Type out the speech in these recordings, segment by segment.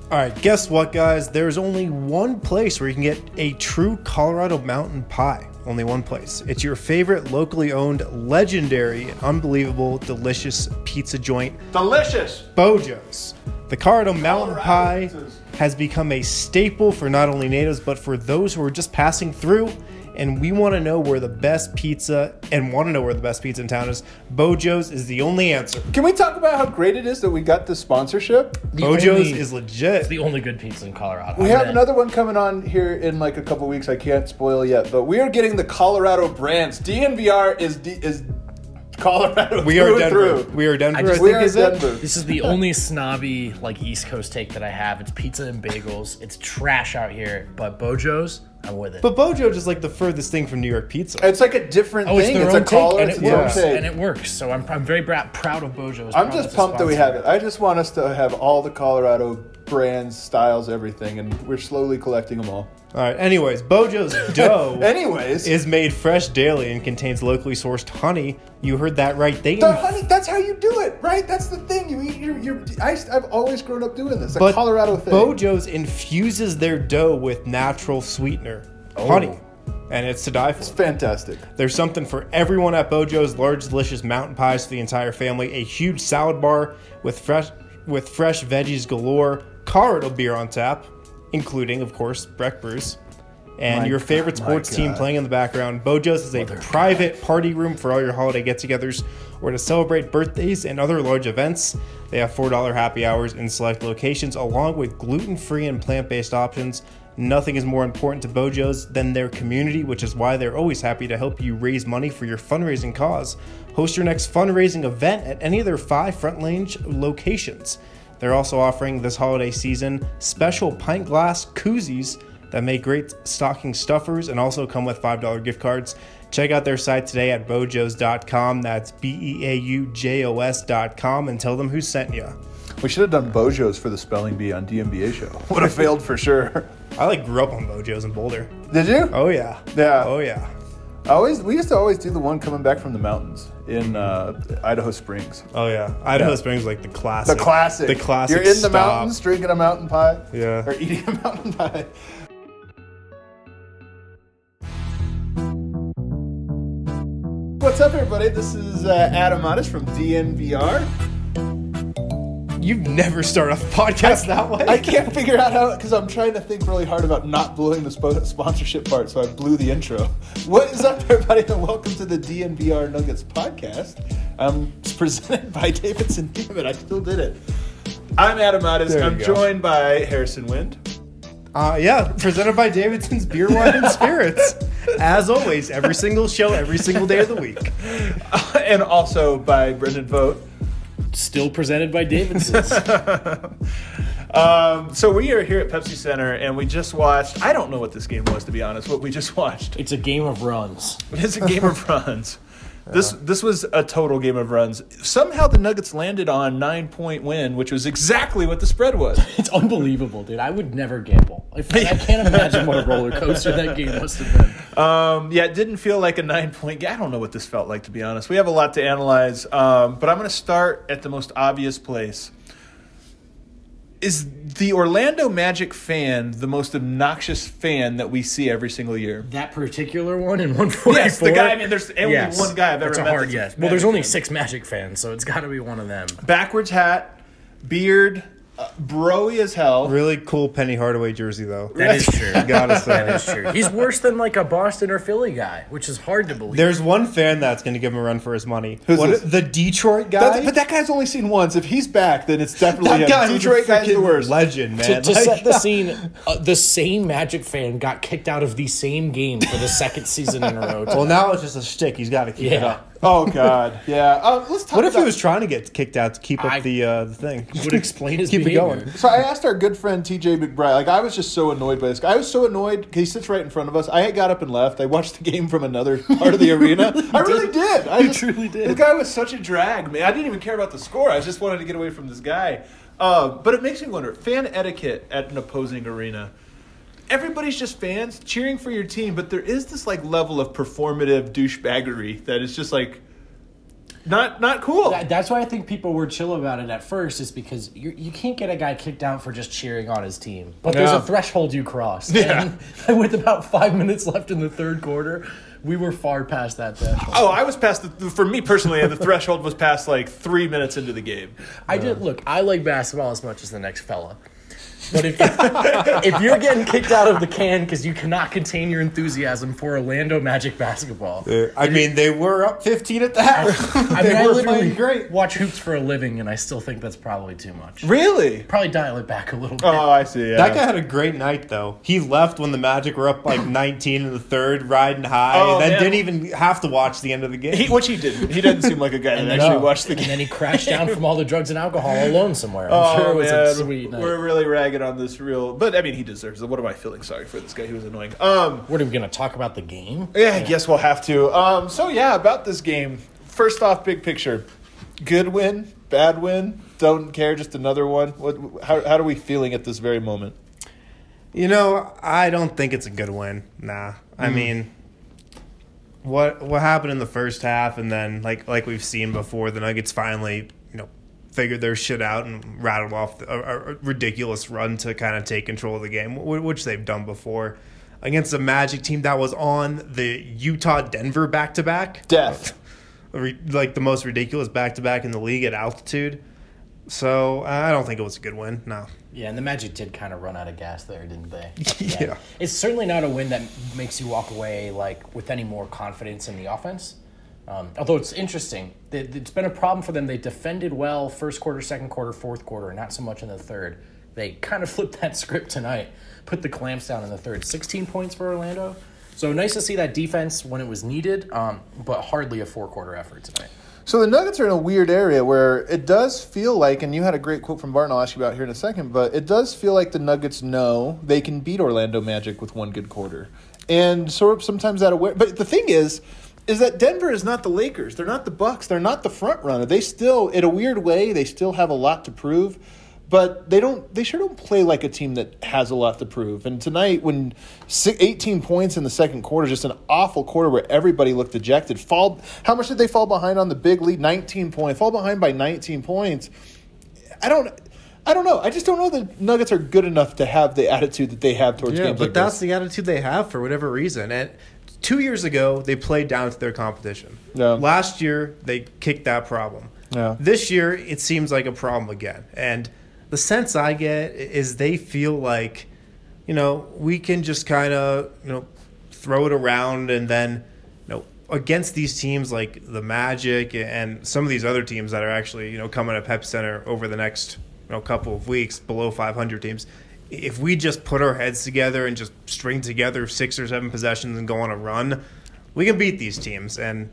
All right, guess what, guys? There's only one place where you can get a true Colorado mountain pie. Only one place. It's your favorite locally owned, legendary, unbelievable, delicious pizza joint. Delicious! Bojo's. The Colorado mountain pie has become a staple for not only natives, but for those who are just passing through. And we want to know where the best pizza in town is. Bojo's is the only answer. Can we talk about how great it is that we got this sponsorship? Bojo's is legit. It's the only good pizza in Colorado. We have another one coming on here in like a couple weeks. I can't spoil yet, but we are getting the Colorado brands. DNVR is Colorado. We are Denver. We are Denver. We are Denver. This is the only snobby like East Coast take that I have. It's pizza and bagels. It's trash out here, but Bojo's, I'm with it. But Bojo's is like the furthest thing from New York pizza. It's like a different thing. It's a collar. and it works. And it works. So I'm very proud of Bojo's. I'm just pumped that we have it. I just want us to have all the Colorado brands, styles, everything, and we're slowly collecting them all. All right. Anyways, Bojo's dough is made fresh daily and contains locally sourced honey. You heard that right. Honey, that's how you do it, right? That's the thing. You eat I've always grown up doing this. A Colorado thing. Bojo's infuses their dough with natural sweetener, honey, and it's to die for. It's fantastic. There's something for everyone at Bojo's. Large, delicious mountain pies for the entire family. A huge salad bar with fresh veggies galore. Colorado beer on tap, including, of course, Breck Brews. And your favorite sports team playing in the background. Bojo's is a private party room for all your holiday get-togethers or to celebrate birthdays and other large events. They have $4 happy hours in select locations, along with gluten-free and plant-based options. Nothing is more important to Bojo's than their community, which is why they're always happy to help you raise money for your fundraising cause. Host your next fundraising event at any of their 5 Front Range locations. They're also offering this holiday season special pint glass koozies that make great stocking stuffers and also come with $5 gift cards. Check out their site today at bojos.com. That's BEAUJOS.com and tell them who sent you. We should have done Bojo's for the spelling bee on DMBA show. Would have failed for sure. I grew up on Bojo's in Boulder. Did you? Oh, yeah. Yeah. Oh, yeah. We used to always do the one coming back from the mountains in Idaho Springs. Oh, yeah. Idaho Springs is like the classic. The classic. You're in the mountains drinking a mountain pie. Yeah. Or eating a mountain pie. What's up, everybody? This is Adam Otis from DNVR. You've never started off a podcast that way. I can't figure out how, because I'm trying to think really hard about not blowing the sponsorship part, so I blew the intro. What is up, everybody, and welcome to the DNVR Nuggets podcast. It's presented by Davidson. Damn it, I still did it. I'm Adam Otis. I'm joined by Harrison Wind. Presented by Davidson's Beer, Wine, and Spirits. As always, every single show, every single day of the week. And also by Brendan Vogt. Still presented by Davidson's. So we are here at Pepsi Center, and we just watched, I don't know what this game was, to be honest, what we just watched. It's a game of runs. It's a game of runs. This was a total game of runs. Somehow the Nuggets landed on 9-point win, which was exactly what the spread was. It's unbelievable, dude. I would never gamble. I can't imagine what a roller coaster that game must have been. It didn't feel like a 9-point game. I don't know what this felt like, to be honest. We have a lot to analyze, but I'm going to start at the most obvious place. Is the Orlando Magic fan the most obnoxious fan that we see every single year? That particular one in 144? Yes, the guy. I mean, there's only one guy I've ever met. That's a hard yes. Well, there's only 6 Magic fans, so it's got to be one of them. Backwards hat, beard, bro-y as hell. Really cool Penny Hardaway jersey, though. That is true. Gotta say. That is true. He's worse than like a Boston or Philly guy, which is hard to believe. There's one fan that's going to give him a run for his money. Who's this? The Detroit guy? But that guy's only seen once. If he's back, then it's definitely that him. guy Detroit guy's the worst. Legend, man. To set the scene, the same Magic fan got kicked out of the same game for the second season in a row. Well, now it's just a shtick. He's got to keep it up. Oh, God. Yeah. Let's talk What if he was trying to get kicked out to keep up the thing? Would explain his keep behavior. it going. So I asked our good friend TJ McBride. I was just so annoyed by this guy. I was so annoyed because he sits right in front of us. I got up and left. I watched the game from another part of the arena. I really did. I truly did. The guy was such a drag, man. I didn't even care about the score. I just wanted to get away from this guy. But it makes me wonder, fan etiquette at an opposing arena. Everybody's just fans cheering for your team, but there is this level of performative douchebaggery that is just not cool. That's why I think people were chill about it at first, is because you can't get a guy kicked out for just cheering on his team. But there's a threshold you cross. Yeah. And with about 5 minutes left in the third quarter, we were far past that threshold. Oh, I was past for me personally, the threshold was past like 3 minutes into the game. I like basketball as much as the next fella. But if you're getting kicked out of the can because you cannot contain your enthusiasm for Orlando Magic basketball. They were up 15 at the half. I were playing great. watch hoops for a living, and I still think that's probably too much. Really? Probably dial it back a little bit. Oh, I see. Yeah. That guy had a great night, though. He left when the Magic were up like 19 in the third, riding high, and then didn't even have to watch the end of the game. Which he didn't. He doesn't seem like a guy that actually watched the game. And then he crashed down from all the drugs and alcohol alone somewhere. I'm sure it was a sweet night. We're really ragging on this but I mean, he deserves it. What am I feeling sorry for this guy? He was annoying. What are we going to talk about the game? Yeah, I guess we'll have to. About this game. First off, big picture. Good win, bad win, don't care, just another one. How are we feeling at this very moment? I don't think it's a good win. Nah. I mean, what happened in the first half, and then like we've seen before, the Nuggets finally, figured their shit out and rattled off a ridiculous run to kind of take control of the game, which they've done before against a Magic team that was on the Utah-Denver back-to-back. Death. Like the most ridiculous back-to-back in the league at altitude. So I don't think it was a good win, no. Yeah, and the Magic did kind of run out of gas there, didn't they? Yeah. It's certainly not a win that makes you walk away with any more confidence in the offense. Although it's interesting, it's been a problem for them. They defended well first quarter, second quarter, fourth quarter, not so much in the third. They kind of flipped that script tonight, put the clamps down in the third. 16 points for Orlando. So nice to see that defense when it was needed, but hardly a four-quarter effort tonight. So the Nuggets are in a weird area where it does feel like, and you had a great quote from Barton I'll ask you about here in a second, but it does feel like the Nuggets know they can beat Orlando Magic with one good quarter. And sort of sometimes that aware. But the thing is that Denver is not the Lakers. They're not the Bucks. They're not the front runner. They still, in a weird way, they still have a lot to prove. But they sure don't play like a team that has a lot to prove. And tonight, when 18 points in the second quarter, just an awful quarter where everybody looked dejected. How much did they fall behind on the big lead? 19 points. Fall behind by 19 points. I don't know. I just don't know the Nuggets are good enough to have the attitude that they have towards games like this. But that's the attitude they have for whatever reason. And 2 years ago, they played down to their competition. Yeah. Last year, they kicked that problem. Yeah. This year, it seems like a problem again. And the sense I get is they feel like, we can just kind of, throw it around, and then, against these teams like the Magic and some of these other teams that are actually, coming to Pep Center over the next, couple of weeks, below 500 teams, if we just put our heads together and just string together 6 or 7 possessions and go on a run, we can beat these teams. And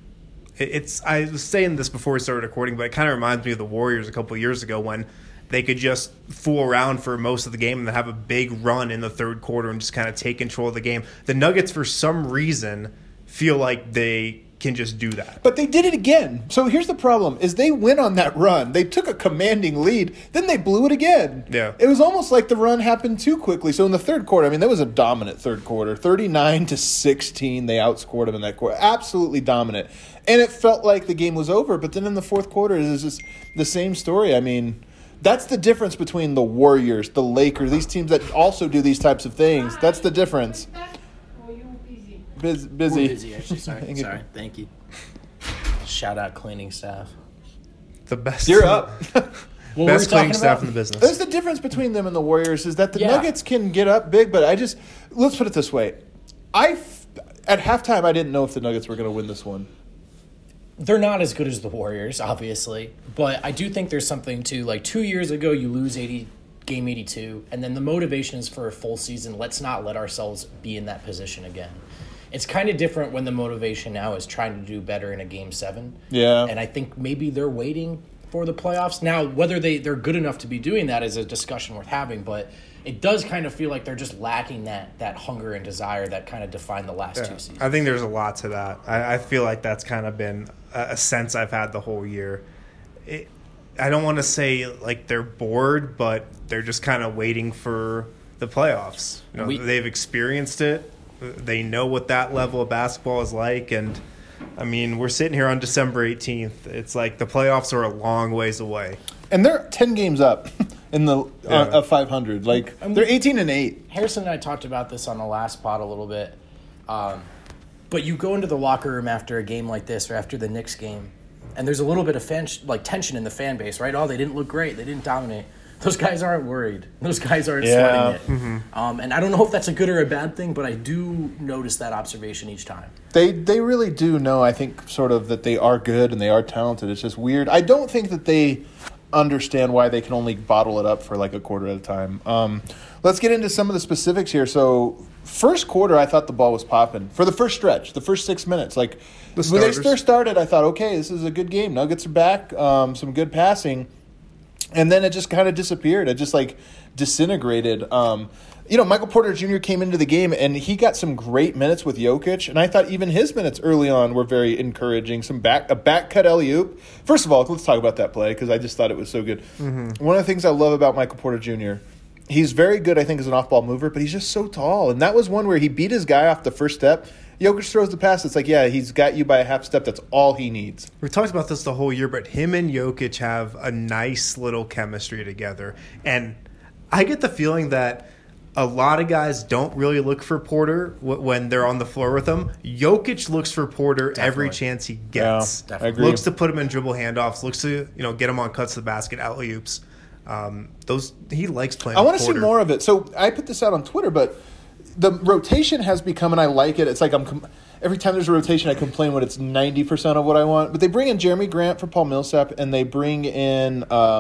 I was saying this before we started recording, but it kind of reminds me of the Warriors a couple of years ago when they could just fool around for most of the game and then have a big run in the third quarter and just kind of take control of the game. The Nuggets, for some reason, feel like they can just do that. But they did it again. So here's the problem, is they went on that run. They took a commanding lead. Then they blew it again. Yeah. It was almost like the run happened too quickly. So in the third quarter, that was a dominant third quarter. 39-16, they outscored them in that quarter. Absolutely dominant. And it felt like the game was over. But then in the fourth quarter, it was just the same story. That's the difference between the Warriors, the Lakers, these teams that also do these types of things. That's the difference. Busy. We're busy, actually. Sorry. Thank you. Shout out cleaning staff. The best. You're up. Best cleaning staff in the business. That's the difference between them and the Warriors, is that the Nuggets can get up big, but let's put it this way. At halftime, I didn't know if the Nuggets were going to win this one. They're not as good as the Warriors, obviously, but I do think there's something to, 2 years ago, you lose game 82, and then the motivation is for a full season. Let's not let ourselves be in that position again. It's kind of different when the motivation now is trying to do better in a Game 7. Yeah. And I think maybe they're waiting for the playoffs. Now, whether they're good enough to be doing that is a discussion worth having, but it does kind of feel like they're just lacking that hunger and desire that kind of defined the last 2 seasons. I think there's a lot to that. I feel like that's kind of been a sense I've had the whole year. I don't want to say like they're bored, but they're just kind of waiting for the playoffs. They've experienced it. They know what that level of basketball is like, and I mean, we're sitting here on December 18th. It's like the playoffs are a long ways away. And they're 10 games up in the of 500. Like, they're 18-8. Harrison and I talked about this on the last pod a little bit. But you go into the locker room after a game like this or after the Knicks game, and there's a little bit of tension in the fan base, right? Oh, they didn't look great. They didn't dominate. Those guys aren't worried. Those guys aren't sweating it. Mm-hmm. And I don't know if that's a good or a bad thing, but I do notice that observation each time. They really do know, I think, sort of that they are good and they are talented. It's just weird. I don't think that they understand why they can only bottle it up for like a quarter at a time. Let's get into some of the specifics here. So, first quarter, I thought the ball was popping. For the first stretch, the first 6 minutes. Like, when they first started, I thought, okay, this is a good game. Nuggets are back, some good passing. And then it just kind of disappeared. It just, like, disintegrated. Michael Porter Jr. came into the game, and he got some great minutes with Jokic. And I thought even his minutes early on were very encouraging. A back cut alley-oop. First of all, let's talk about that play because I just thought it was so good. Mm-hmm. One of the things I love about Michael Porter Jr., he's very good, I think, as an off-ball mover, but he's just so tall. And that was one where he beat his guy off the first step. Jokic throws the pass. It's like, yeah, he's got you by a half step. That's all he needs. We've talked about this the whole year, but him and Jokic have a nice little chemistry together. And I get the feeling that a lot of guys don't really look for Porter when they're on the floor with him. Jokic looks for Porter every chance he gets. Yeah, I agree. Looks to put him in dribble handoffs. Looks to get him on cuts to the basket, alley-oops. He likes playing. I want to see more of it. So I put this out on Twitter, but the rotation has become, and I like it. It's like every time there's a rotation, I complain when it's 90% of what I want. But they bring in Jeremy Grant for Paul Millsap, and they bring in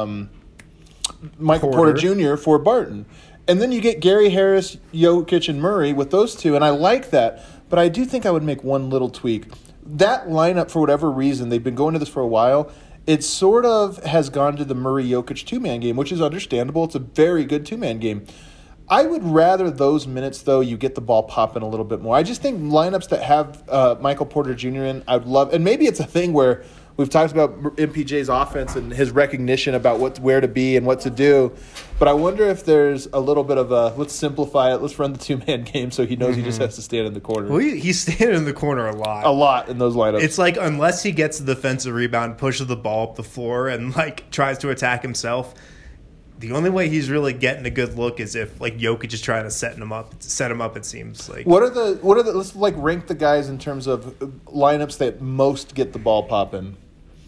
Michael Porter Jr. for Barton. And then you get Gary Harris, Jokic, and Murray with those two, and I like that. But I do think I would make one little tweak. That lineup, for whatever reason, they've been going to this for a while, it sort of has gone to the Murray-Jokic two-man game, which is understandable. It's a very good two-man game. I would rather those minutes, though, you get the ball popping a little bit more. I just think lineups that have Michael Porter Jr. in, I would love. And maybe it's a thing where we've talked about MPJ's offense and his recognition about where to be and what to do. But I wonder if there's a little bit of let's simplify it. Let's run the two-man game so he knows he just has to stand in the corner. Well, he's standing in the corner a lot. A lot in those lineups. It's like unless he gets the defensive rebound, pushes the ball up the floor, and like tries to attack himself, the only way he's really getting a good look is if like Jokic is trying to set him up. It seems like. What are the let's like rank the guys in terms of lineups that most get the ball popping.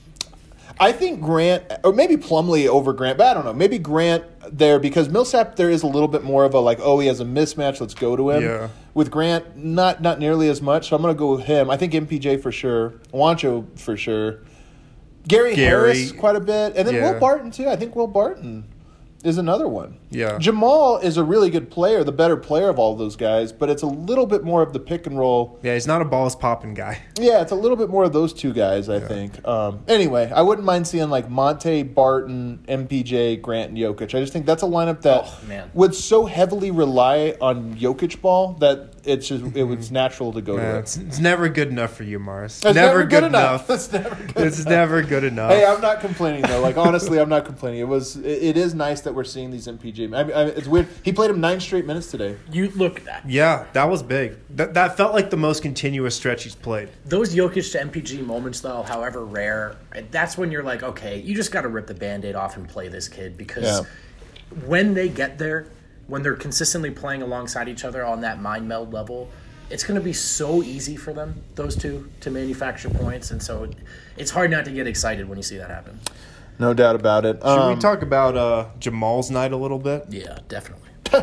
I think Grant, or maybe Plumlee over Grant, but I don't know. Maybe Grant there because Millsap there is a little bit more of a like, oh, he has a mismatch, let's go to him. Yeah. With Grant, not nearly as much, so I'm going to go with him. I think MPJ for sure, Juancho for sure, Gary Harris quite a bit, and then Will Barton too. I think Will Barton is another one. Yeah. Jamal is a really good player, the better player of all those guys, but it's a little bit more of the pick and roll. Yeah, he's not a balls popping guy. Yeah, it's a little bit more of those two guys, I think. Anyway, I wouldn't mind seeing like Monte, Barton, MPJ, Grant, and Jokic. I just think that's a lineup that would so heavily rely on Jokic ball that it was natural to go to it. It's never good enough for you, Mars. It's never good enough. It's never good enough. It's never good enough. Hey, I'm not complaining though. Like honestly, I'm not complaining. It is nice that we're seeing these MPJ. I mean, it's weird. He played him 9 straight minutes today. You look at that. Yeah, that was big. That felt like the most continuous stretch he's played. Those Jokic to MPG moments, though, however rare, that's when you're like, okay, you just got to rip the Band-Aid off and play this kid because when they get there, when they're consistently playing alongside each other on that mind meld level, it's going to be so easy for them, those two, to manufacture points. And so it's hard not to get excited when you see that happen. No doubt about it. Should we talk about Jamal's night a little bit? Yeah, definitely.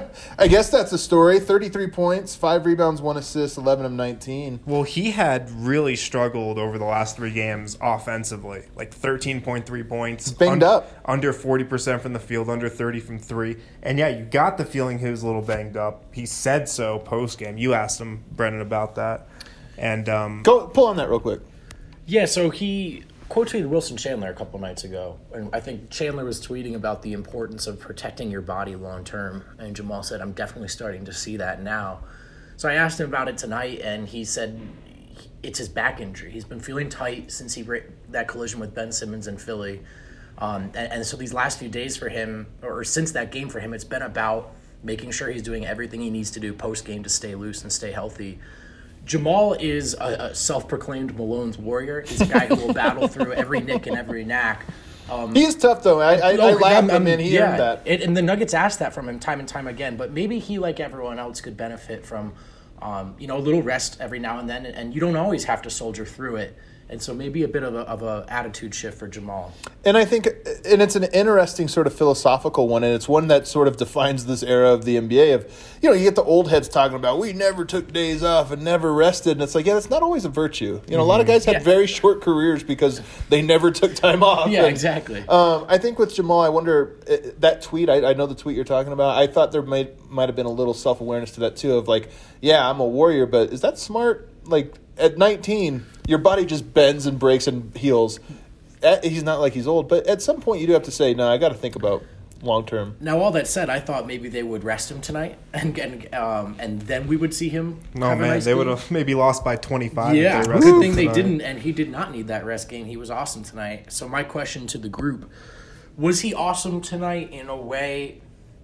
I guess that's the story. 33 points, 5 rebounds, 1 assist, 11 of 19. Well, he had really struggled over the last 3 games offensively. Like 13.3 points. Banged up. Under 40% from the field, under 30 from 3. And yeah, you got the feeling he was a little banged up. He said so post-game. You asked him, Brennan, about that. And Go pull on that real quick. Yeah, so he quoted Wilson Chandler a couple nights ago, and I think Chandler was tweeting about the importance of protecting your body long term, and Jamal said, I'm definitely starting to see that now. So I asked him about it tonight, and he said it's his back injury. He's been feeling tight since that collision with Ben Simmons in Philly, and so these last few days for him, or since that game for him, it's been about making sure he's doing everything he needs to do post-game to stay loose and stay healthy. Jamal is a self-proclaimed Malone's warrior. He's a guy who will battle through every nick and every knack. He's tough, though. I laughed him in. He earned that. And the Nuggets asked that from him time and time again. But maybe he, like everyone else, could benefit from a little rest every now and then. And you don't always have to soldier through it. And so maybe a bit of a attitude shift for Jamal. And I think, and it's an interesting sort of philosophical one, and it's one that sort of defines this era of the NBA of, you get the old heads talking about, we never took days off and never rested. And it's like, yeah, that's not always a virtue. A lot of guys had very short careers because they never took time off. Yeah, exactly. I think with Jamal, I wonder, that tweet, I know the tweet you're talking about, I thought there might have been a little self-awareness to that too of like, yeah, I'm a warrior, but is that smart? Like, at 19, your body just bends and breaks and heals. He's not like he's old, but at some point you do have to say, no, I got to think about long term. Now, all that said, I thought maybe they would rest him tonight, and then we would see him. No, have man, a nice they game. would have maybe lost by 25. Yeah, if they rested good thing they tonight. didn't, and he did not need that rest game. He was awesome tonight. So my question to the group: was he awesome tonight in a way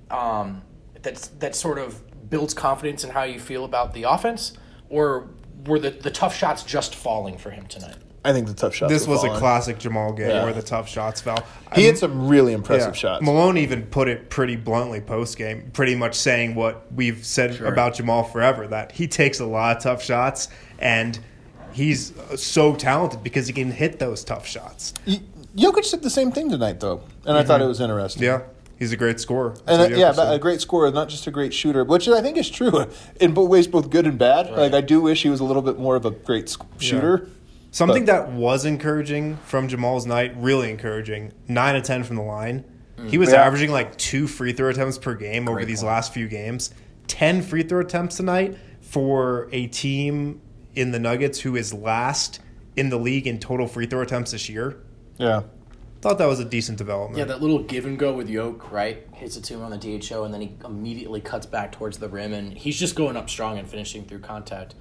that sort of builds confidence in how you feel about the offense, or were the tough shots just falling for him tonight? I think the tough shots. This was falling. a classic Jamal game where the tough shots fell. He had some really impressive shots. Malone even put it pretty bluntly post-game, pretty much saying what we've said about Jamal forever, that he takes a lot of tough shots, and he's so talented because he can hit those tough shots. Jokic did the same thing tonight, though, and I thought it was interesting. Yeah, he's a great scorer. And a great scorer, not just a great shooter, which I think is true in both ways, both good and bad. Right. Like, I do wish he was a little bit more of a great shooter. Something that was encouraging from Jamal's night, really encouraging, 9 of 10 from the line. He was averaging like 2 free throw attempts per game over these last few games. 10 free throw attempts tonight for a team in the Nuggets who is last in the league in total free throw attempts this year. Yeah. Thought that was a decent development. Yeah, that little give and go with Yoke, right? Hits it to him on the DHO, and then he immediately cuts back towards the rim, and he's just going up strong and finishing through contact,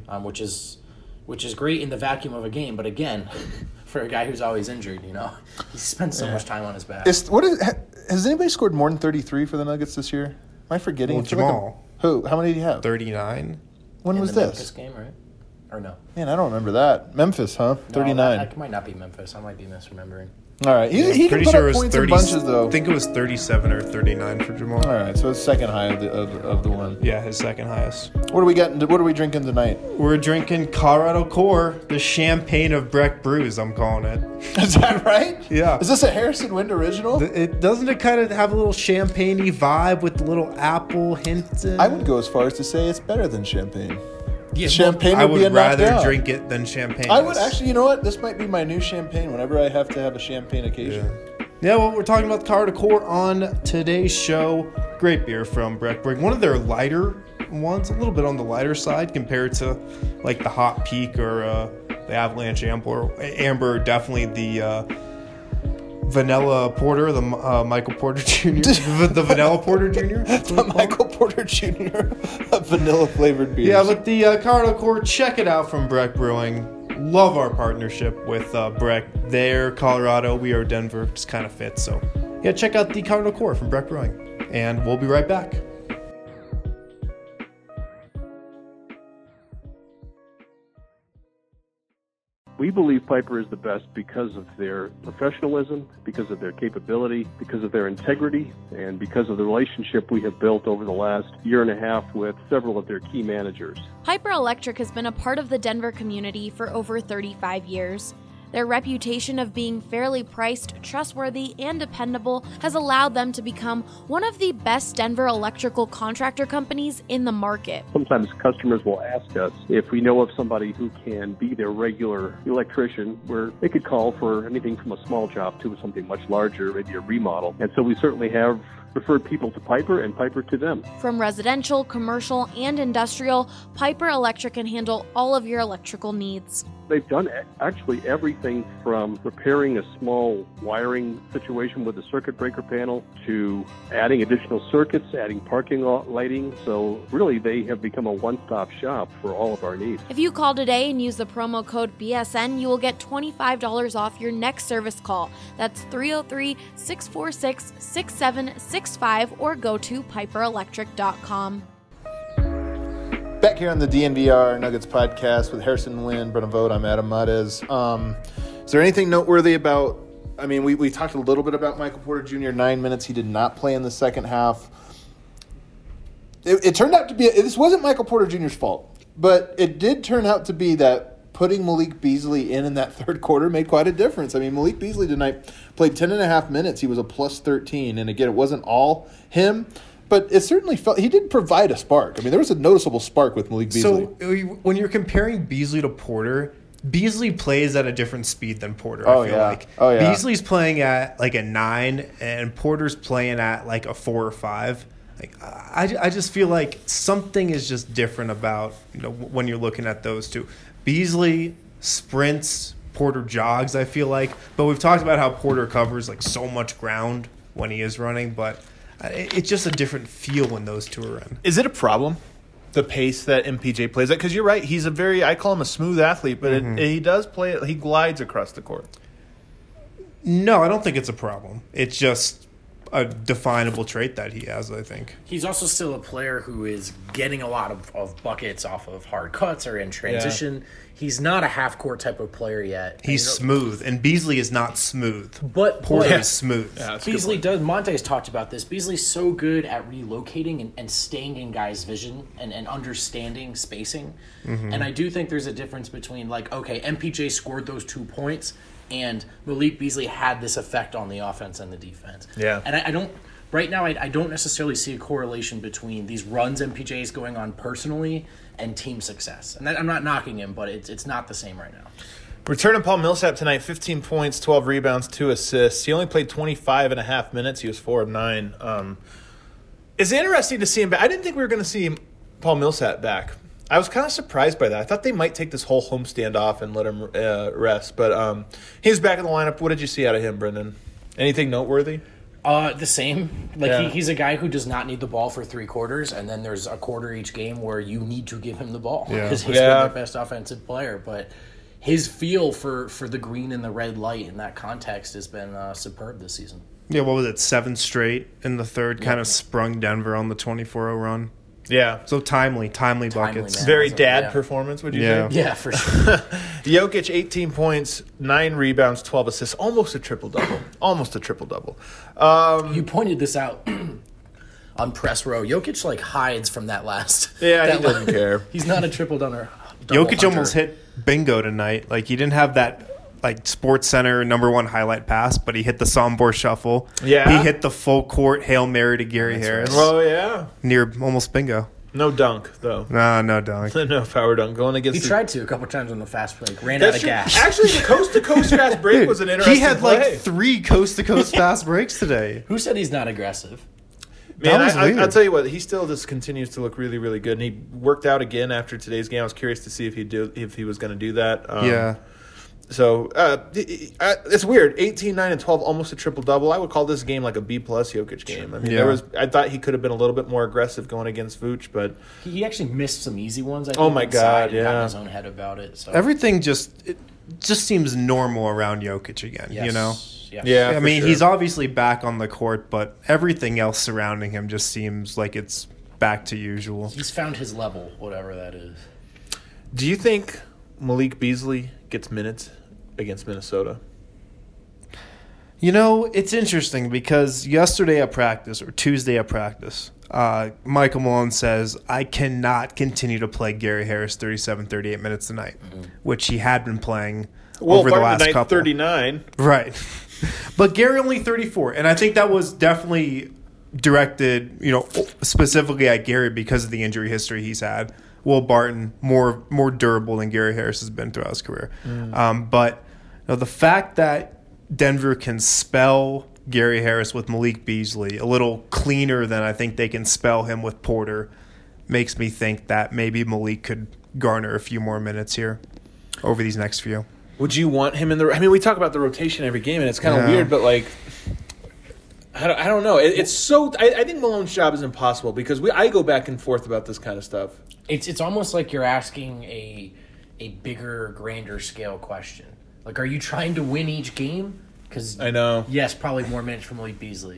which is great in the vacuum of a game. But again, for a guy who's always injured, he spends so much time on his back. Has anybody scored more than 33 for the Nuggets this year? Am I forgetting? Well, Jamal. Who? How many did he have? 39. When in was the this? Memphis game, right? Or no? Man, I don't remember that. Memphis, huh? 39. No, that might not be Memphis. I might be misremembering. All right. He can put up points in bunches, though. I think it was 37 or 39 for Jamal. All right, so it's second high of the one. Yeah, his second highest. What are we drinking tonight? We're drinking Colorado Core, the champagne of Breck Brews, I'm calling it. Is that right? Yeah. Is this a Harrison Wind original? Doesn't it kind of have a little champagne-y vibe with the little apple hint? I would go as far as to say it's better than champagne. Yeah, champagne I would be a would rather knockout. drink it than champagne. I would actually, you know what? This might be my new champagne whenever I have to have a champagne occasion. Yeah, well, we're talking about the Colorado Core on today's show. Great beer from Breck Brew. One of their lighter ones, a little bit on the lighter side compared to like the Hot Peak or the Avalanche Amber. Definitely the Vanilla Porter, the Michael Porter Jr. the Vanilla Porter Jr. The Michael Porter Jr. Vanilla flavored beer. Yeah, but the Colorado Core, check it out from Breck Brewing. Love our partnership with Breck. They're Colorado, we are Denver. Just kind of fits. So, yeah, check out the Colorado Core from Breck Brewing. And we'll be right back. We believe Piper is the best because of their professionalism, because of their capability, because of their integrity, and because of the relationship we have built over the last year and a half with several of their key managers. Piper Electric has been a part of the Denver community for over 35 years. Their reputation of being fairly priced, trustworthy, and dependable has allowed them to become one of the best Denver electrical contractor companies in the market. Sometimes customers will ask us if we know of somebody who can be their regular electrician, where they could call for anything from a small job to something much larger, maybe a remodel. And so we certainly have referred people to Piper and Piper to them. From residential, commercial, and industrial, Piper Electric can handle all of your electrical needs. They've done actually everything from repairing a small wiring situation with a circuit breaker panel to adding additional circuits, adding parking lot lighting. So really, they have become a one-stop shop for all of our needs. If you call today and use the promo code BSN, you will get $25 off your next service call. That's 303-646-6765 or go to piperelectric.com. Back here on the DNVR Nuggets podcast with Harrison Wind, Brennan Vogt, I'm Adam Mares. Is there anything noteworthy about, I mean, we talked a little bit about Michael Porter Jr., 9 minutes. He did not play in the second half. It turned out to be, this wasn't Michael Porter Jr.'s fault, but it did turn out to be that putting Malik Beasley in that third quarter made quite a difference. I mean, Malik Beasley tonight played 10 and a half minutes. He was a plus 13. And again, it wasn't all him. But it certainly felt he did provide a spark. I mean, there was a noticeable spark with Malik Beasley. So when you're comparing Beasley to Porter, Beasley plays at a different speed than Porter. Oh, I feel yeah. like Oh, yeah. Beasley's playing at like a 9, and Porter's playing at like a 4 or 5. Like I just feel like something is just different about when you're looking at those two. Beasley sprints, Porter jogs. I feel like, but we've talked about how Porter covers like so much ground when he is running, but. It's just a different feel when those two are in. Is it a problem, the pace that MPJ plays at? Because you're right, he's I call him a smooth athlete, but he does play it. He glides across the court. No, I don't think it's a problem. It's just a definable trait that he has, I think. He's also still a player who is getting a lot of buckets off of hard cuts or in transition. Yeah. He's not a half-court type of player yet. He's smooth, and Beasley is not smooth. But Porter is smooth. Yeah, Beasley does. Monte's talked about this. Beasley's so good at relocating and staying in guys' vision and understanding spacing. Mm-hmm. And I do think there's a difference between, like, okay, MPJ scored those 2 points, and Malik Beasley had this effect on the offense and the defense. Yeah. And I don't – right now I don't necessarily see a correlation between these runs MPJ is going on personally and team success. And I'm not knocking him, but it's not the same right now. Returning Paul Millsap tonight, 15 points, 12 rebounds, 2 assists. He only played 25 and a half minutes. He was 4 of 9. It's interesting to see him back. I didn't think we were going to see Paul Millsap back. I was kind of surprised by that. I thought they might take this whole homestand off and let him rest. But he's back in the lineup. What did you see out of him, Brendan? Anything noteworthy? The same. Like he's a guy who does not need the ball for 3 quarters, and then there's a quarter each game where you need to give him the ball because he's been their best offensive player. But his feel for the green and the red light in that context has been superb this season. Yeah, what was it? 7 straight in the third, kind of sprung Denver on the 24-0 run. Yeah. So timely buckets. Man. Very dad performance, would you say? Yeah, for sure. Jokic, 18 points, 9 rebounds, 12 assists. Almost a triple-double. You pointed this out on press row. Jokic, hides from that last. Yeah, he doesn't care. He's not a triple-double Jokic hunter. almost hit bingo tonight. Like, he didn't have that Sports Center #1 highlight pass, but he hit the Sombor shuffle. Yeah. He hit the full court Hail Mary to Gary Harris. Right. Oh, yeah. Near almost bingo. No dunk, though. Nah, no dunk. No power dunk. Going against He tried to a couple times on the fast break. Ran That's out of true. gas. Actually, the coast-to-coast fast break was an interesting He had play. 3 coast-to-coast fast breaks today. Who said he's not aggressive? Man, That was weird. I'll tell you what, he still just continues to look really, really good. And he worked out again after today's game. I was curious to see if he was going to do that. Yeah. So it's weird. 18, 9, and 12, almost a triple-double. I would call this game like a B-plus Jokic game. I mean, I thought he could have been a little bit more aggressive going against Vooch, but He actually missed some easy ones. I think, Oh, my God, and got in yeah. his own head about it. So. Everything just seems normal around Jokic again, Yes. you know? Yes. yeah, I for mean, sure. he's obviously back on the court, but everything else surrounding him just seems like it's back to usual. He's found his level, whatever that is. Do you think Malik Beasley gets minutes against Minnesota? You know, it's interesting because yesterday at practice, or Tuesday at practice, Michael Malone says, I cannot continue to play Gary Harris 37, 38 minutes tonight, which he had been playing over the last couple. 39. Right. But Gary only 34, and I think that was definitely directed, specifically at Gary because of the injury history he's had. Will Barton, more durable than Gary Harris has been throughout his career. But the fact that Denver can spell Gary Harris with Malik Beasley a little cleaner than I think they can spell him with Porter makes me think that maybe Malik could garner a few more minutes here over these next few. Would you want him in the? I mean, we talk about the rotation every game, and it's kind of weird, but I don't know. It's so. I think Malone's job is impossible because I go back and forth about this kind of stuff. It's almost like you're asking a bigger, grander scale question. Like, are you trying to win each game? Because I know. Yes, probably more minutes from Malik Beasley,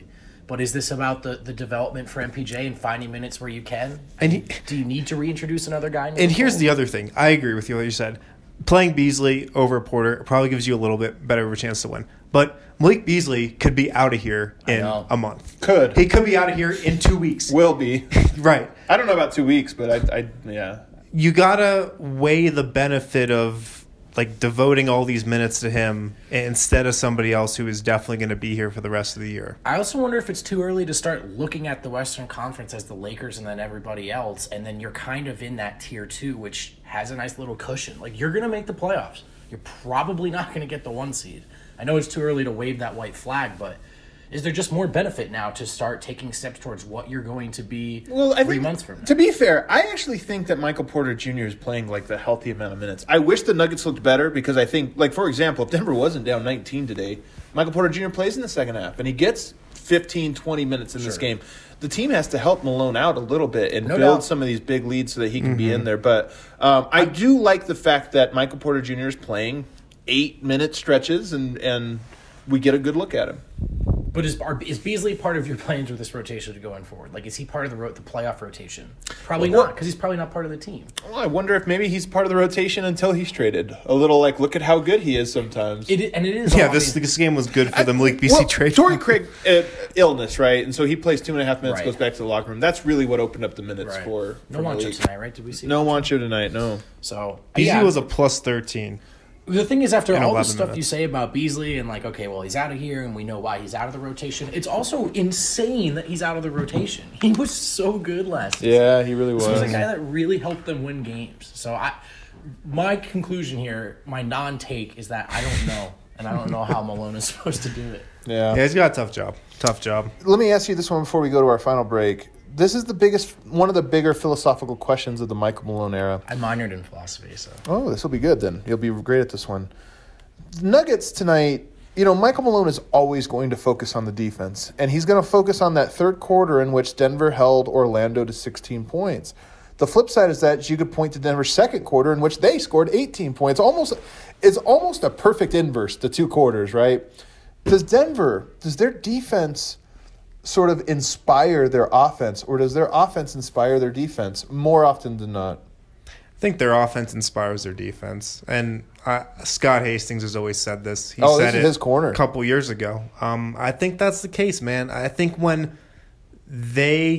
But is this about the development for MPJ and finding minutes where you can? Do you need to reintroduce another guy? And here's the other thing. I agree with you what you said. Playing Beasley over Porter probably gives you a little bit better of a chance to win. But Malik Beasley could be out of here in a month. He could be out of here in 2 weeks. Will be. Right. I don't know about 2 weeks, but yeah. You got to weigh the benefit of like devoting all these minutes to him instead of somebody else who is definitely going to be here for the rest of the year. I also wonder if it's too early to start looking at the Western Conference as the Lakers and then everybody else, and then you're kind of in that tier 2, which has a nice little cushion. Like, you're going to make the playoffs. You're probably not going to get the 1 seed. I know it's too early to wave that white flag, but is there just more benefit now to start taking steps towards what you're going to be 3 months from now? To be fair, I actually think that Michael Porter Jr. is playing like the healthy amount of minutes. I wish the Nuggets looked better because I think, like, for example, if Denver wasn't down 19 today, Michael Porter Jr. plays in the second half and he gets 15, 20 minutes in this game. The team has to help Malone out a little bit and build some of these big leads so that he can be in there. But I do like the fact that Michael Porter Jr. is playing 8-minute stretches and we get a good look at him. But is Beasley part of your plans with this rotation going forward? Like, is he part of the playoff rotation? Probably not, because he's probably not part of the team. Well, I wonder if maybe he's part of the rotation until he's traded. A little like, look at how good he is sometimes. It is. Yeah, this game was good for the Malik Beasley trade. Torrey Craig, illness, right? And so he plays 2.5 minutes, goes back to the locker room. That's really what opened up the minutes for no Juancho tonight, right? Did we see? No Juancho tonight, no. So Beasley was a plus 13. The thing is, after all the stuff minutes. you say about Beasley and like, okay, well, he's out of here and we know why he's out of the rotation, it's also insane that he's out of the rotation. He was so good last season. Yeah, he really was. He was a guy that really helped them win games. So my conclusion here, my non-take, is that I don't know. And I don't know how Malone is supposed to do it. Yeah, he's got a tough job. Tough job. Let me ask you this one before we go to our final break. This is one of the bigger philosophical questions of the Michael Malone era. I minored in philosophy, so. Oh, this will be good then. You'll be great at this one. Nuggets tonight, Michael Malone is always going to focus on the defense, and he's going to focus on that third quarter in which Denver held Orlando to 16 points. The flip side is that you could point to Denver's second quarter in which they scored 18 points. It's almost a perfect inverse, the two quarters, right? Does their defense sort of inspire their offense, or does their offense inspire their defense more often than not? I think their offense inspires their defense. And Scott Hastings has always said this. He said it his corner a couple years ago. I think that's the case, man. I think when they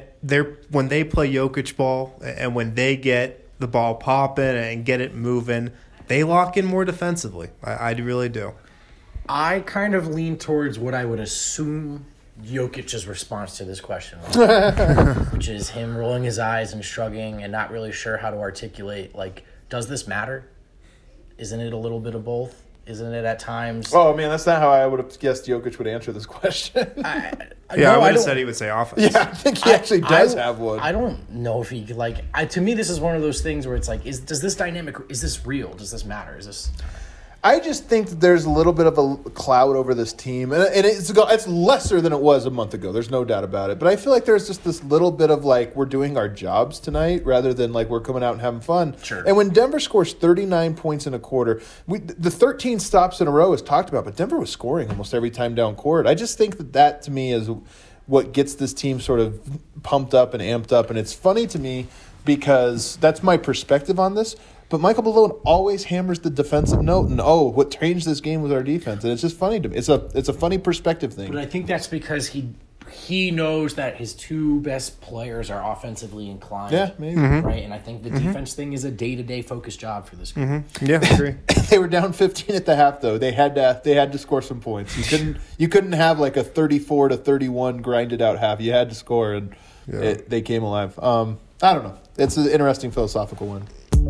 play Jokic ball and when they get the ball popping and get it moving, they lock in more defensively. I really do. I kind of lean towards what I would assume Jokic's response to this question was, which is him rolling his eyes and shrugging and not really sure how to articulate, like, does this matter? Isn't it a little bit of both? Isn't it at times? Oh, man, that's not how I would have guessed Jokic would answer this question. I would have said he would say offense. Yeah, I think he actually does have one. I don't know if he, to me, this is one of those things where it's like, does this dynamic, is this real? Does this matter? Is this... I just think that there's a little bit of a cloud over this team, and it's lesser than it was a month ago. There's no doubt about it. But I feel like there's just this little bit of like we're doing our jobs tonight rather than like we're coming out and having fun. Sure. And when Denver scores 39 points in a quarter, the 13 stops in a row is talked about, but Denver was scoring almost every time down court. I just think that to me is what gets this team sort of pumped up and amped up, and it's funny to me because that's my perspective on this. But Michael Malone always hammers the defensive note, and what changed this game was our defense, and it's just funny to me. It's a funny perspective thing. But I think that's because he knows that his two best players are offensively inclined. Yeah, maybe right. And I think the defense thing is a day-to-day focused job for this group. Yeah, I agree. They were down 15 at the half, though. They had to score some points. You couldn't have like a 34-31 grinded out half. You had to score, and they came alive. I don't know. It's an interesting philosophical one.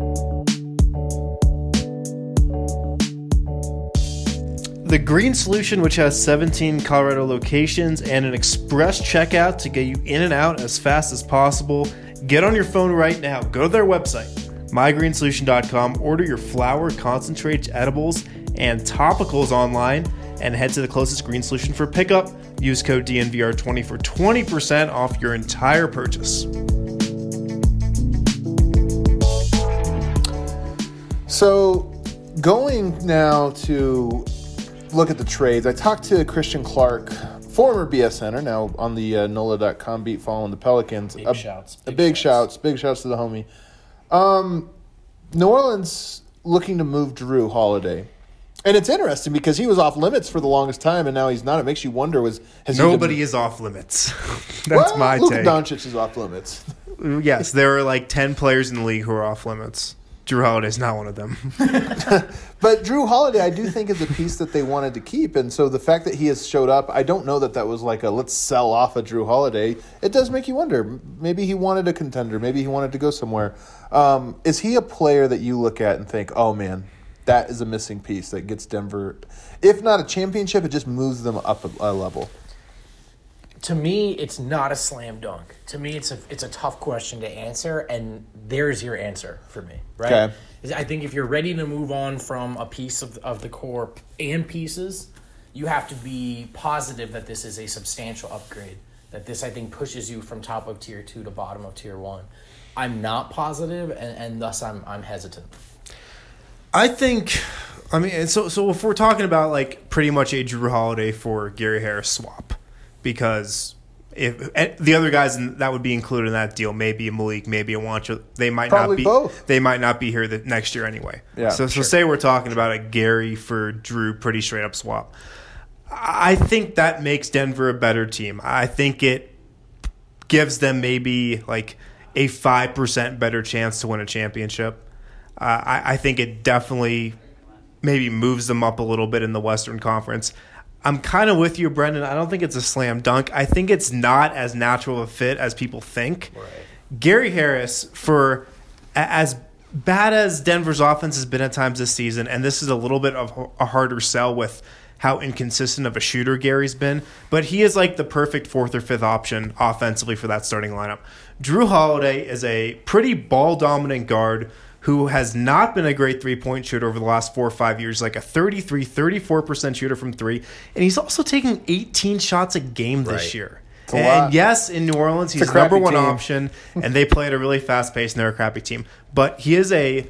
The Green Solution, which has 17 Colorado locations and an express checkout to get you in and out as fast as possible. Get on your phone right now. Go to their website, mygreensolution.com. Order your flower, concentrates, edibles, and topicals online and head to the closest Green Solution for pickup. Use code DNVR20 for 20% off your entire purchase. So going now to look at the trades, I talked to Christian Clark former BSNer, now on the NOLA.com beat following the Pelicans. Big shouts. Big shouts to the homie. New Orleans looking to move Drew Holiday. And it's interesting because he was off limits for the longest time, and now he's not. It makes you wonder, nobody is off limits. That's my Luka take. Doncic is off limits. Yes, there are like 10 players in the league who are off limits. Drew Holiday's not one of them. But Drew Holiday, I do think, is a piece that they wanted to keep. And so the fact that he has showed up, I don't know that was like a let's sell off a Drew Holiday. It does make you wonder. Maybe he wanted a contender. Maybe he wanted to go somewhere. Is he a player that you look at and think, oh, man, that is a missing piece that gets Denver, if not a championship, it just moves them up a level? To me, it's not a slam dunk. To me, it's a tough question to answer, and there's your answer for me, right? Okay. I think if you're ready to move on from a piece of the core and pieces, you have to be positive that this is a substantial upgrade, that this, I think, pushes you from top of tier 2 to bottom of tier 1. I'm not positive, and thus I'm hesitant. I think, so if we're talking about like pretty much a Drew Holiday for Gary Harris swap, because if the other guys that would be included in that deal, maybe a Malik, maybe a Wancho, they might Probably not be both. They might not be here next year anyway. Yeah, so say we're talking about a Gary for Drew pretty straight up swap. I think that makes Denver a better team. I think it gives them maybe like a 5% better chance to win a championship. I think it definitely maybe moves them up a little bit in the Western Conference. I'm kind of with you, Brendan. I don't think it's a slam dunk. I think it's not as natural a fit as people think. Right. Gary Harris, for as bad as Denver's offense has been at times this season, and this is a little bit of a harder sell with how inconsistent of a shooter Gary's been, but he is like the perfect 4th or 5th option offensively for that starting lineup. Drew Holiday is a pretty ball-dominant guard who has not been a great three-point shooter over the last 4 or 5 years, like a 34% shooter from three. And he's also taking 18 shots a game this year. And yes, in New Orleans, he's number one option, and they play at a really fast pace, and they're a crappy team. But he is he's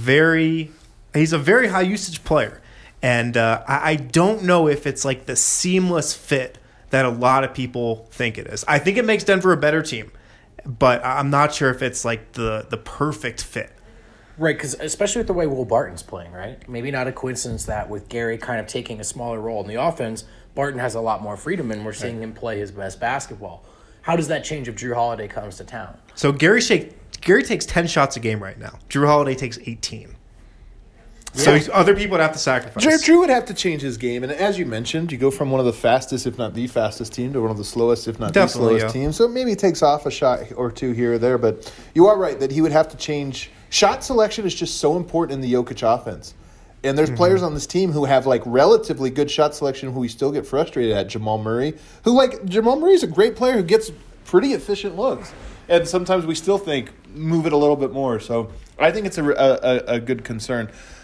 a very high-usage player. And I don't know if it's like the seamless fit that a lot of people think it is. I think it makes Denver a better team, but I'm not sure if it's like the perfect fit. Right, because especially with the way Will Barton's playing, right? Maybe not a coincidence that with Gary kind of taking a smaller role in the offense, Barton has a lot more freedom, and we're seeing him play his best basketball. How does that change if Drew Holiday comes to town? So Gary takes 10 shots a game right now. Drew Holiday takes 18. Yeah. So other people would have to sacrifice. Drew would have to change his game. And as you mentioned, you go from one of the fastest, if not the fastest team, to one of the slowest, if not the slowest team. So maybe he takes off a shot or two here or there. But you are right that he would have to change. Shot selection is just so important in the Jokic offense. And there's players on this team who have like relatively good shot selection who we still get frustrated at. Jamal Murray, Jamal Murray's a great player who gets pretty efficient looks. And sometimes we still think, move it a little bit more. So I think it's a good concern.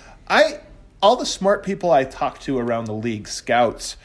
All the smart people I talk to around the league, scouts,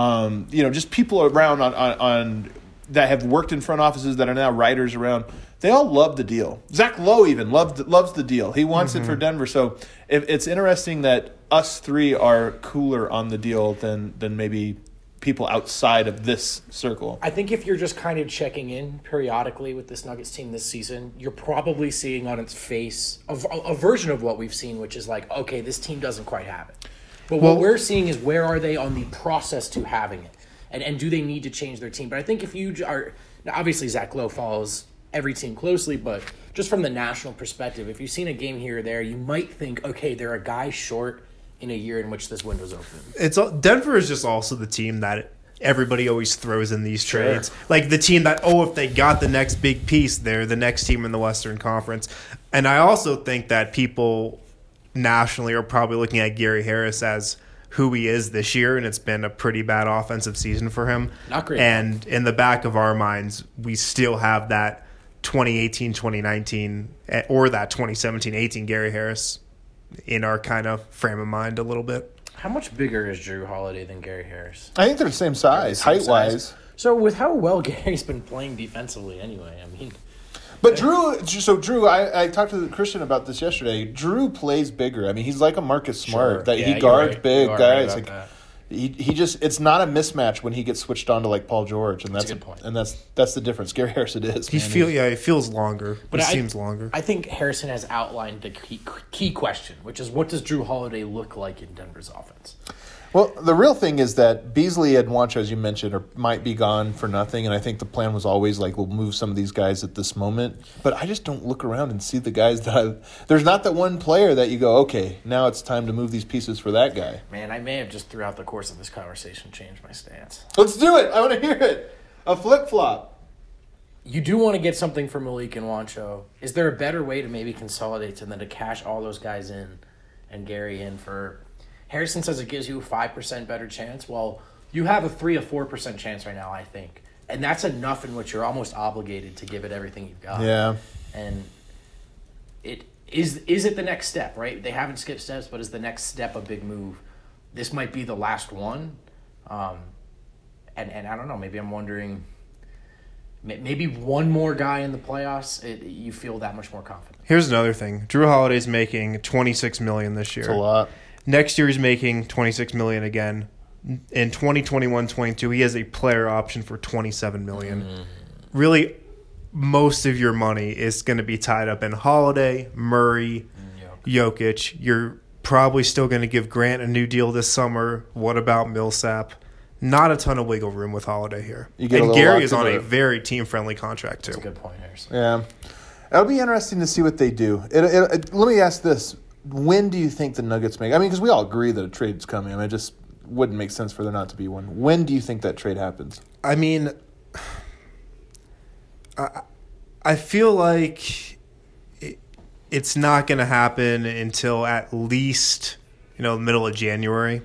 just people around on that have worked in front offices that are now writers around, they all love the deal. Zach Lowe even loves the deal. He wants it for Denver. So it's interesting that us three are cooler on the deal than maybe people outside of this circle. I think if you're just kind of checking in periodically with this Nuggets team this season, you're probably seeing on its face a version of what we've seen, which is like, okay, this team doesn't quite have it. But what we're seeing is where are they on the process to having it? And do they need to change their team? But I think if you are – now obviously Zach Lowe follows every team closely, but just from the national perspective, if you've seen a game here or there, you might think, okay, they're a guy short in a year in which this window's open. Denver is just also the team that everybody always throws in these trades. Sure. Like the team that, if they got the next big piece, they're the next team in the Western Conference. And I also think that people nationally are probably looking at Gary Harris as who he is this year, and it's been a pretty bad offensive season for him. Not great. And in the back of our minds, we still have that 2018-2019 or that 2017-18 Gary Harris in our kind of frame of mind a little bit. How much bigger is Drew Holiday than Gary Harris? I think they're the same size, height-wise. So with how well Gary's been playing defensively anyway, I mean... But Drew, I talked to Christian about this yesterday. Drew plays bigger. I mean, he's like a Marcus Smart, that he guards big guys. He just, it's not a mismatch when he gets switched on to like Paul George, and that's a good point. And that's the difference. Gary Harris, it is. He feels longer. But it seems longer. I think Harrison has outlined the key question, which is what does Drew Holiday look like in Denver's offense? Well, the real thing is that Beasley and Juancho, as you mentioned, might be gone for nothing, and I think the plan was always like we'll move some of these guys at this moment. But I just don't look around and see the guys there's not that one player that you go, okay, now it's time to move these pieces for that guy. Man, I may have just throughout the course of this conversation changed my stance. Let's do it. I want to hear it. A flip-flop. You do want to get something for Malik and Juancho. Is there a better way to maybe consolidate than to cash all those guys in and Gary in for... Harrison says it gives you a 5% better chance. Well, you have a 3 or 4% chance right now, I think. And that's enough in which you're almost obligated to give it everything you've got. Yeah. And is it the next step, right? They haven't skipped steps, but is the next step a big move? This might be the last one. And I don't know, maybe I'm wondering, maybe one more guy in the playoffs, you feel that much more confident. Here's another thing. Drew Holiday's making $26 million this year. That's a lot. Next year he's making $26 million again. In 2021-22, he has a player option for $27 million. Really, most of your money is going to be tied up in Holiday, Murray, Jokic. You're probably still going to give Grant a new deal this summer. What about Millsap? Not a ton of wiggle room with Holiday here. And Gary is on a very team-friendly contract, too. That's a good point, Harrison. Yeah. It'll be interesting to see what they do. Let me ask this. When do you think the Nuggets make? I mean, because we all agree that a trade's coming. I mean, it just wouldn't make sense for there not to be one. When do you think that trade happens? I mean, I feel like it's not going to happen until at least, the middle of January.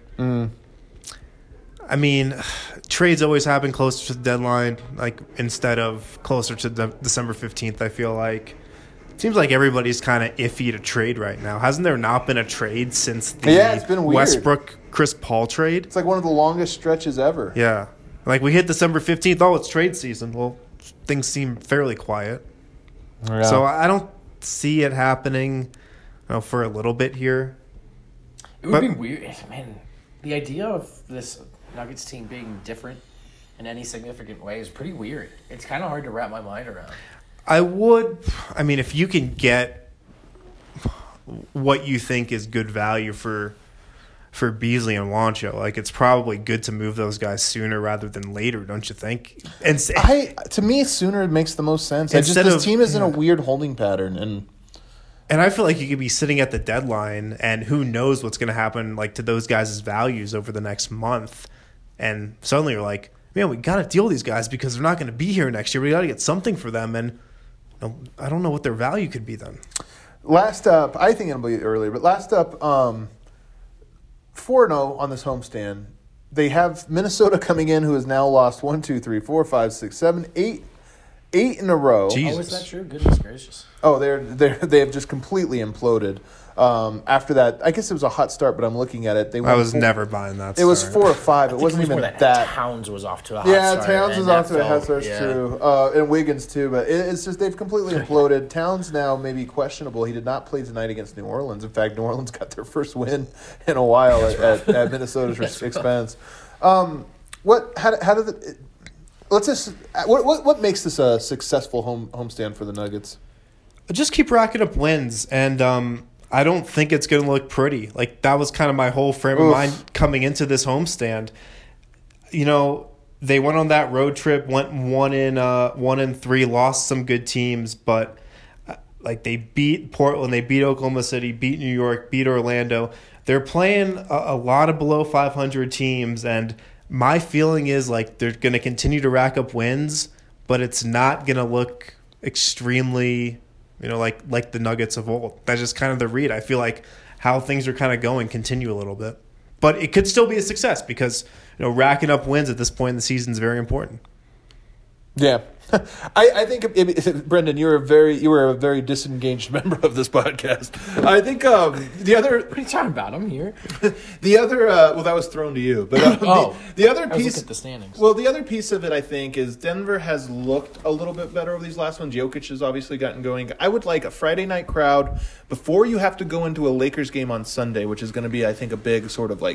I mean, trades always happen closer to the deadline, like instead of closer to December 15th, I feel like. Seems like everybody's kind of iffy to trade right now. Hasn't there not been a trade since the it's been weird. Westbrook-Chris Paul trade? It's like one of the longest stretches ever. Yeah. Like we hit December 15th. Oh, it's trade season. Well, things seem fairly quiet. Yeah. So I don't see it happening for a little bit here. It would be weird. Man, the idea of this Nuggets team being different in any significant way is pretty weird. It's kind of hard to wrap my mind around. If you can get what you think is good value for Beasley and Juancho, like it's probably good to move those guys sooner rather than later, don't you think? And to me, sooner makes the most sense. This team is in a weird holding pattern, and I feel like you could be sitting at the deadline, and who knows what's going to happen like to those guys' values over the next month, and suddenly you're like, man, we got to deal with these guys because they're not going to be here next year. We got to get something for them, and I don't know what their value could be then. Last up, I think it'll be earlier, but last up, 4-0 on this homestand. They have Minnesota coming in, who has now lost 1, 2, 3, 4, 5, 6, 7, 8 in a row. Jesus. Oh, is that true? Goodness gracious. Oh, they have just completely imploded. After that, I guess it was a hot start, but I'm looking at it. I was never buying that. It was 4 or 5. It wasn't even that. Towns was off to a hot start. Yeah, Towns was off to a hot start too, and Wiggins too. But it's just they've completely imploded. Towns now may be questionable. He did not play tonight against New Orleans. In fact, New Orleans got their first win in a while at Minnesota's expense. What makes this a successful homestand for the Nuggets? Just keep racking up wins, and I don't think it's going to look pretty. Like, that was kind of my whole frame of mind coming into this homestand. They went on that road trip, went 1-3, lost some good teams, but they beat Portland, they beat Oklahoma City, beat New York, beat Orlando. They're playing a lot of below 500 teams, and my feeling is they're going to continue to rack up wins, but it's not going to look extremely like the Nuggets of old. That's just kind of the read. I feel like how things are kind of going continue a little bit. But it could still be a success because, racking up wins at this point in the season is very important. Yeah. I think, Brendan, you were a very disengaged member of this podcast. I think the other... What are you talking about? I'm here. The other... that was thrown to you. But the other piece... I was looking at the standings. Well, the other piece of it, I think, is Denver has looked a little bit better over these last ones. Jokic has obviously gotten going. I would like a Friday night crowd before you have to go into a Lakers game on Sunday, which is going to be, I think, a big sort of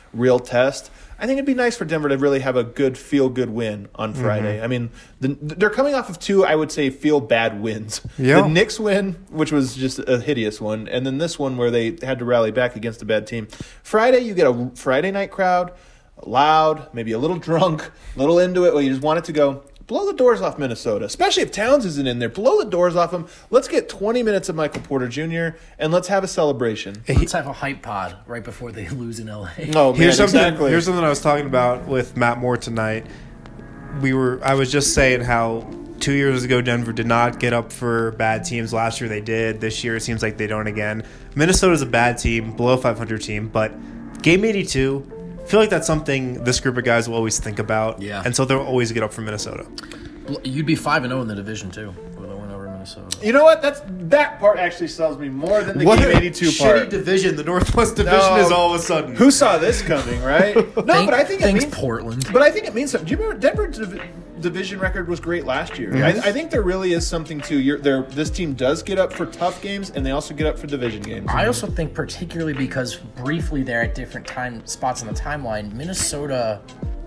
real test. I think it'd be nice for Denver to really have a good feel-good win on Friday. I mean, they're coming off of 2, I would say, feel-bad wins. Yeah. The Knicks win, which was just a hideous one, and then this one where they had to rally back against a bad team. Friday, you get a Friday night crowd, loud, maybe a little drunk, a little into it, where you just want it to go. Blow the doors off Minnesota, especially if Towns isn't in there. Blow the doors off him. Let's get 20 minutes of Michael Porter Jr., and let's have a celebration. Let's have a hype pod right before they lose in LA. Oh, man, Here's something I was talking about with Matt Moore tonight. I was just saying how 2 years ago Denver did not get up for bad teams. Last year they did. This year it seems like they don't again. Minnesota's a bad team, below 500 team, but game 82, I feel like that's something this group of guys will always think about. Yeah. And so they'll always get up for Minnesota. You'd be 5-0 in the division too with a win over Minnesota. You know what? That part actually sells me more than the What game a 82 shitty part. division. The Northwest Division No. is all of a sudden. Who saw this coming, right? No, but I think it thanks means Portland. But I think it means something. Do you remember Denver's division record was great last year? I think there really is something to this team does get up for tough games, and they also get up for division games. I also think particularly because briefly there at different time spots on the timeline, Minnesota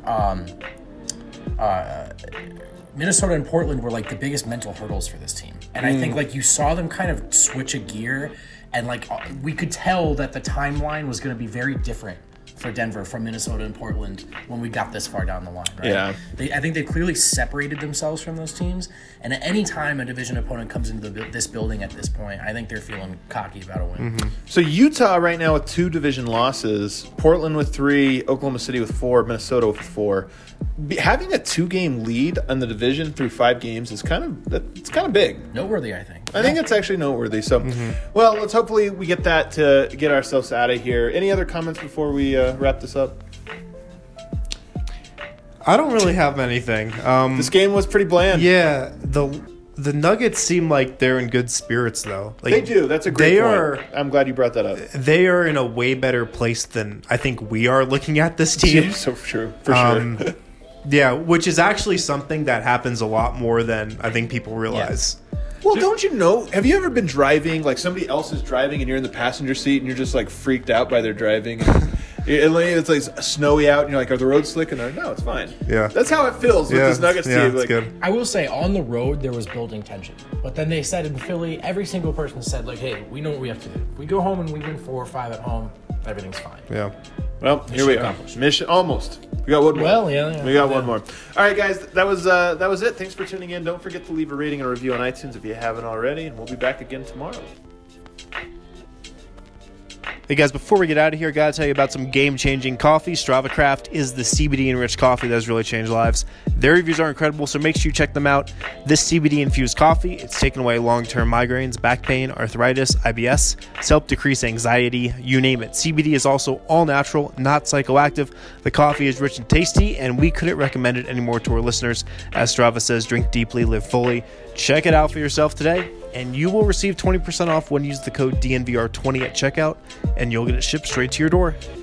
and Portland were like the biggest mental hurdles for this team. And I think like you saw them kind of switch a gear, and like we could tell that the timeline was going to be very different for Denver from Minnesota and Portland when we got this far down the line, right? Yeah. I think they clearly separated themselves from those teams, and at any time a division opponent comes into this building at this point, I think they're feeling cocky about a win. So Utah right now with 2 division losses, Portland with 3, Oklahoma City with 4, Minnesota with 4. Having a 2-game lead on the division through 5 games is kind of big. Noteworthy, I think. I think it's actually noteworthy. So, well, let's hopefully we get that to get ourselves out of here. Any other comments before we wrap this up? I don't really have anything. This game was pretty bland. Yeah, the Nuggets seem like they're in good spirits, though. Like, They do. That's a great point. I'm glad you brought that up. They are in a way better place than I think we are looking at this team. So true. For sure. Yeah, which is actually something that happens a lot more than I think people realize. Well, don't you know? Have you ever been driving, like somebody else is driving and you're in the passenger seat and you're just like freaked out by their driving? It's like snowy out and you're like, are the roads slick? And they're like, no, it's fine. Yeah. That's how it feels with this Nuggets team. It's Like, good. I will say, on the road, there was building tension. But then they said in Philly, every single person said, like, hey, we know what we have to do. If we go home and we win 4 or 5 at home, everything's fine. Yeah. Well, here we are. accomplished. Mission almost. We got one more. Well, yeah. We got one more. All right, guys, that was it. Thanks for tuning in. Don't forget to leave a rating and a review on iTunes if you haven't already, and we'll be back again tomorrow. Hey guys, before we get out of here, I gotta tell you about some game-changing coffee. Strava Craft is the CBD-enriched coffee that has really changed lives. Their reviews are incredible, so make sure you check them out. This CBD-infused coffee, it's taken away long-term migraines, back pain, arthritis, IBS. It's helped decrease anxiety, you name it. CBD is also all-natural, not psychoactive. The coffee is rich and tasty, and we couldn't recommend it anymore to our listeners. As Strava says, drink deeply, live fully. Check it out for yourself today, and you will receive 20% off when you use the code DNVR20 at checkout, and you'll get it shipped straight to your door.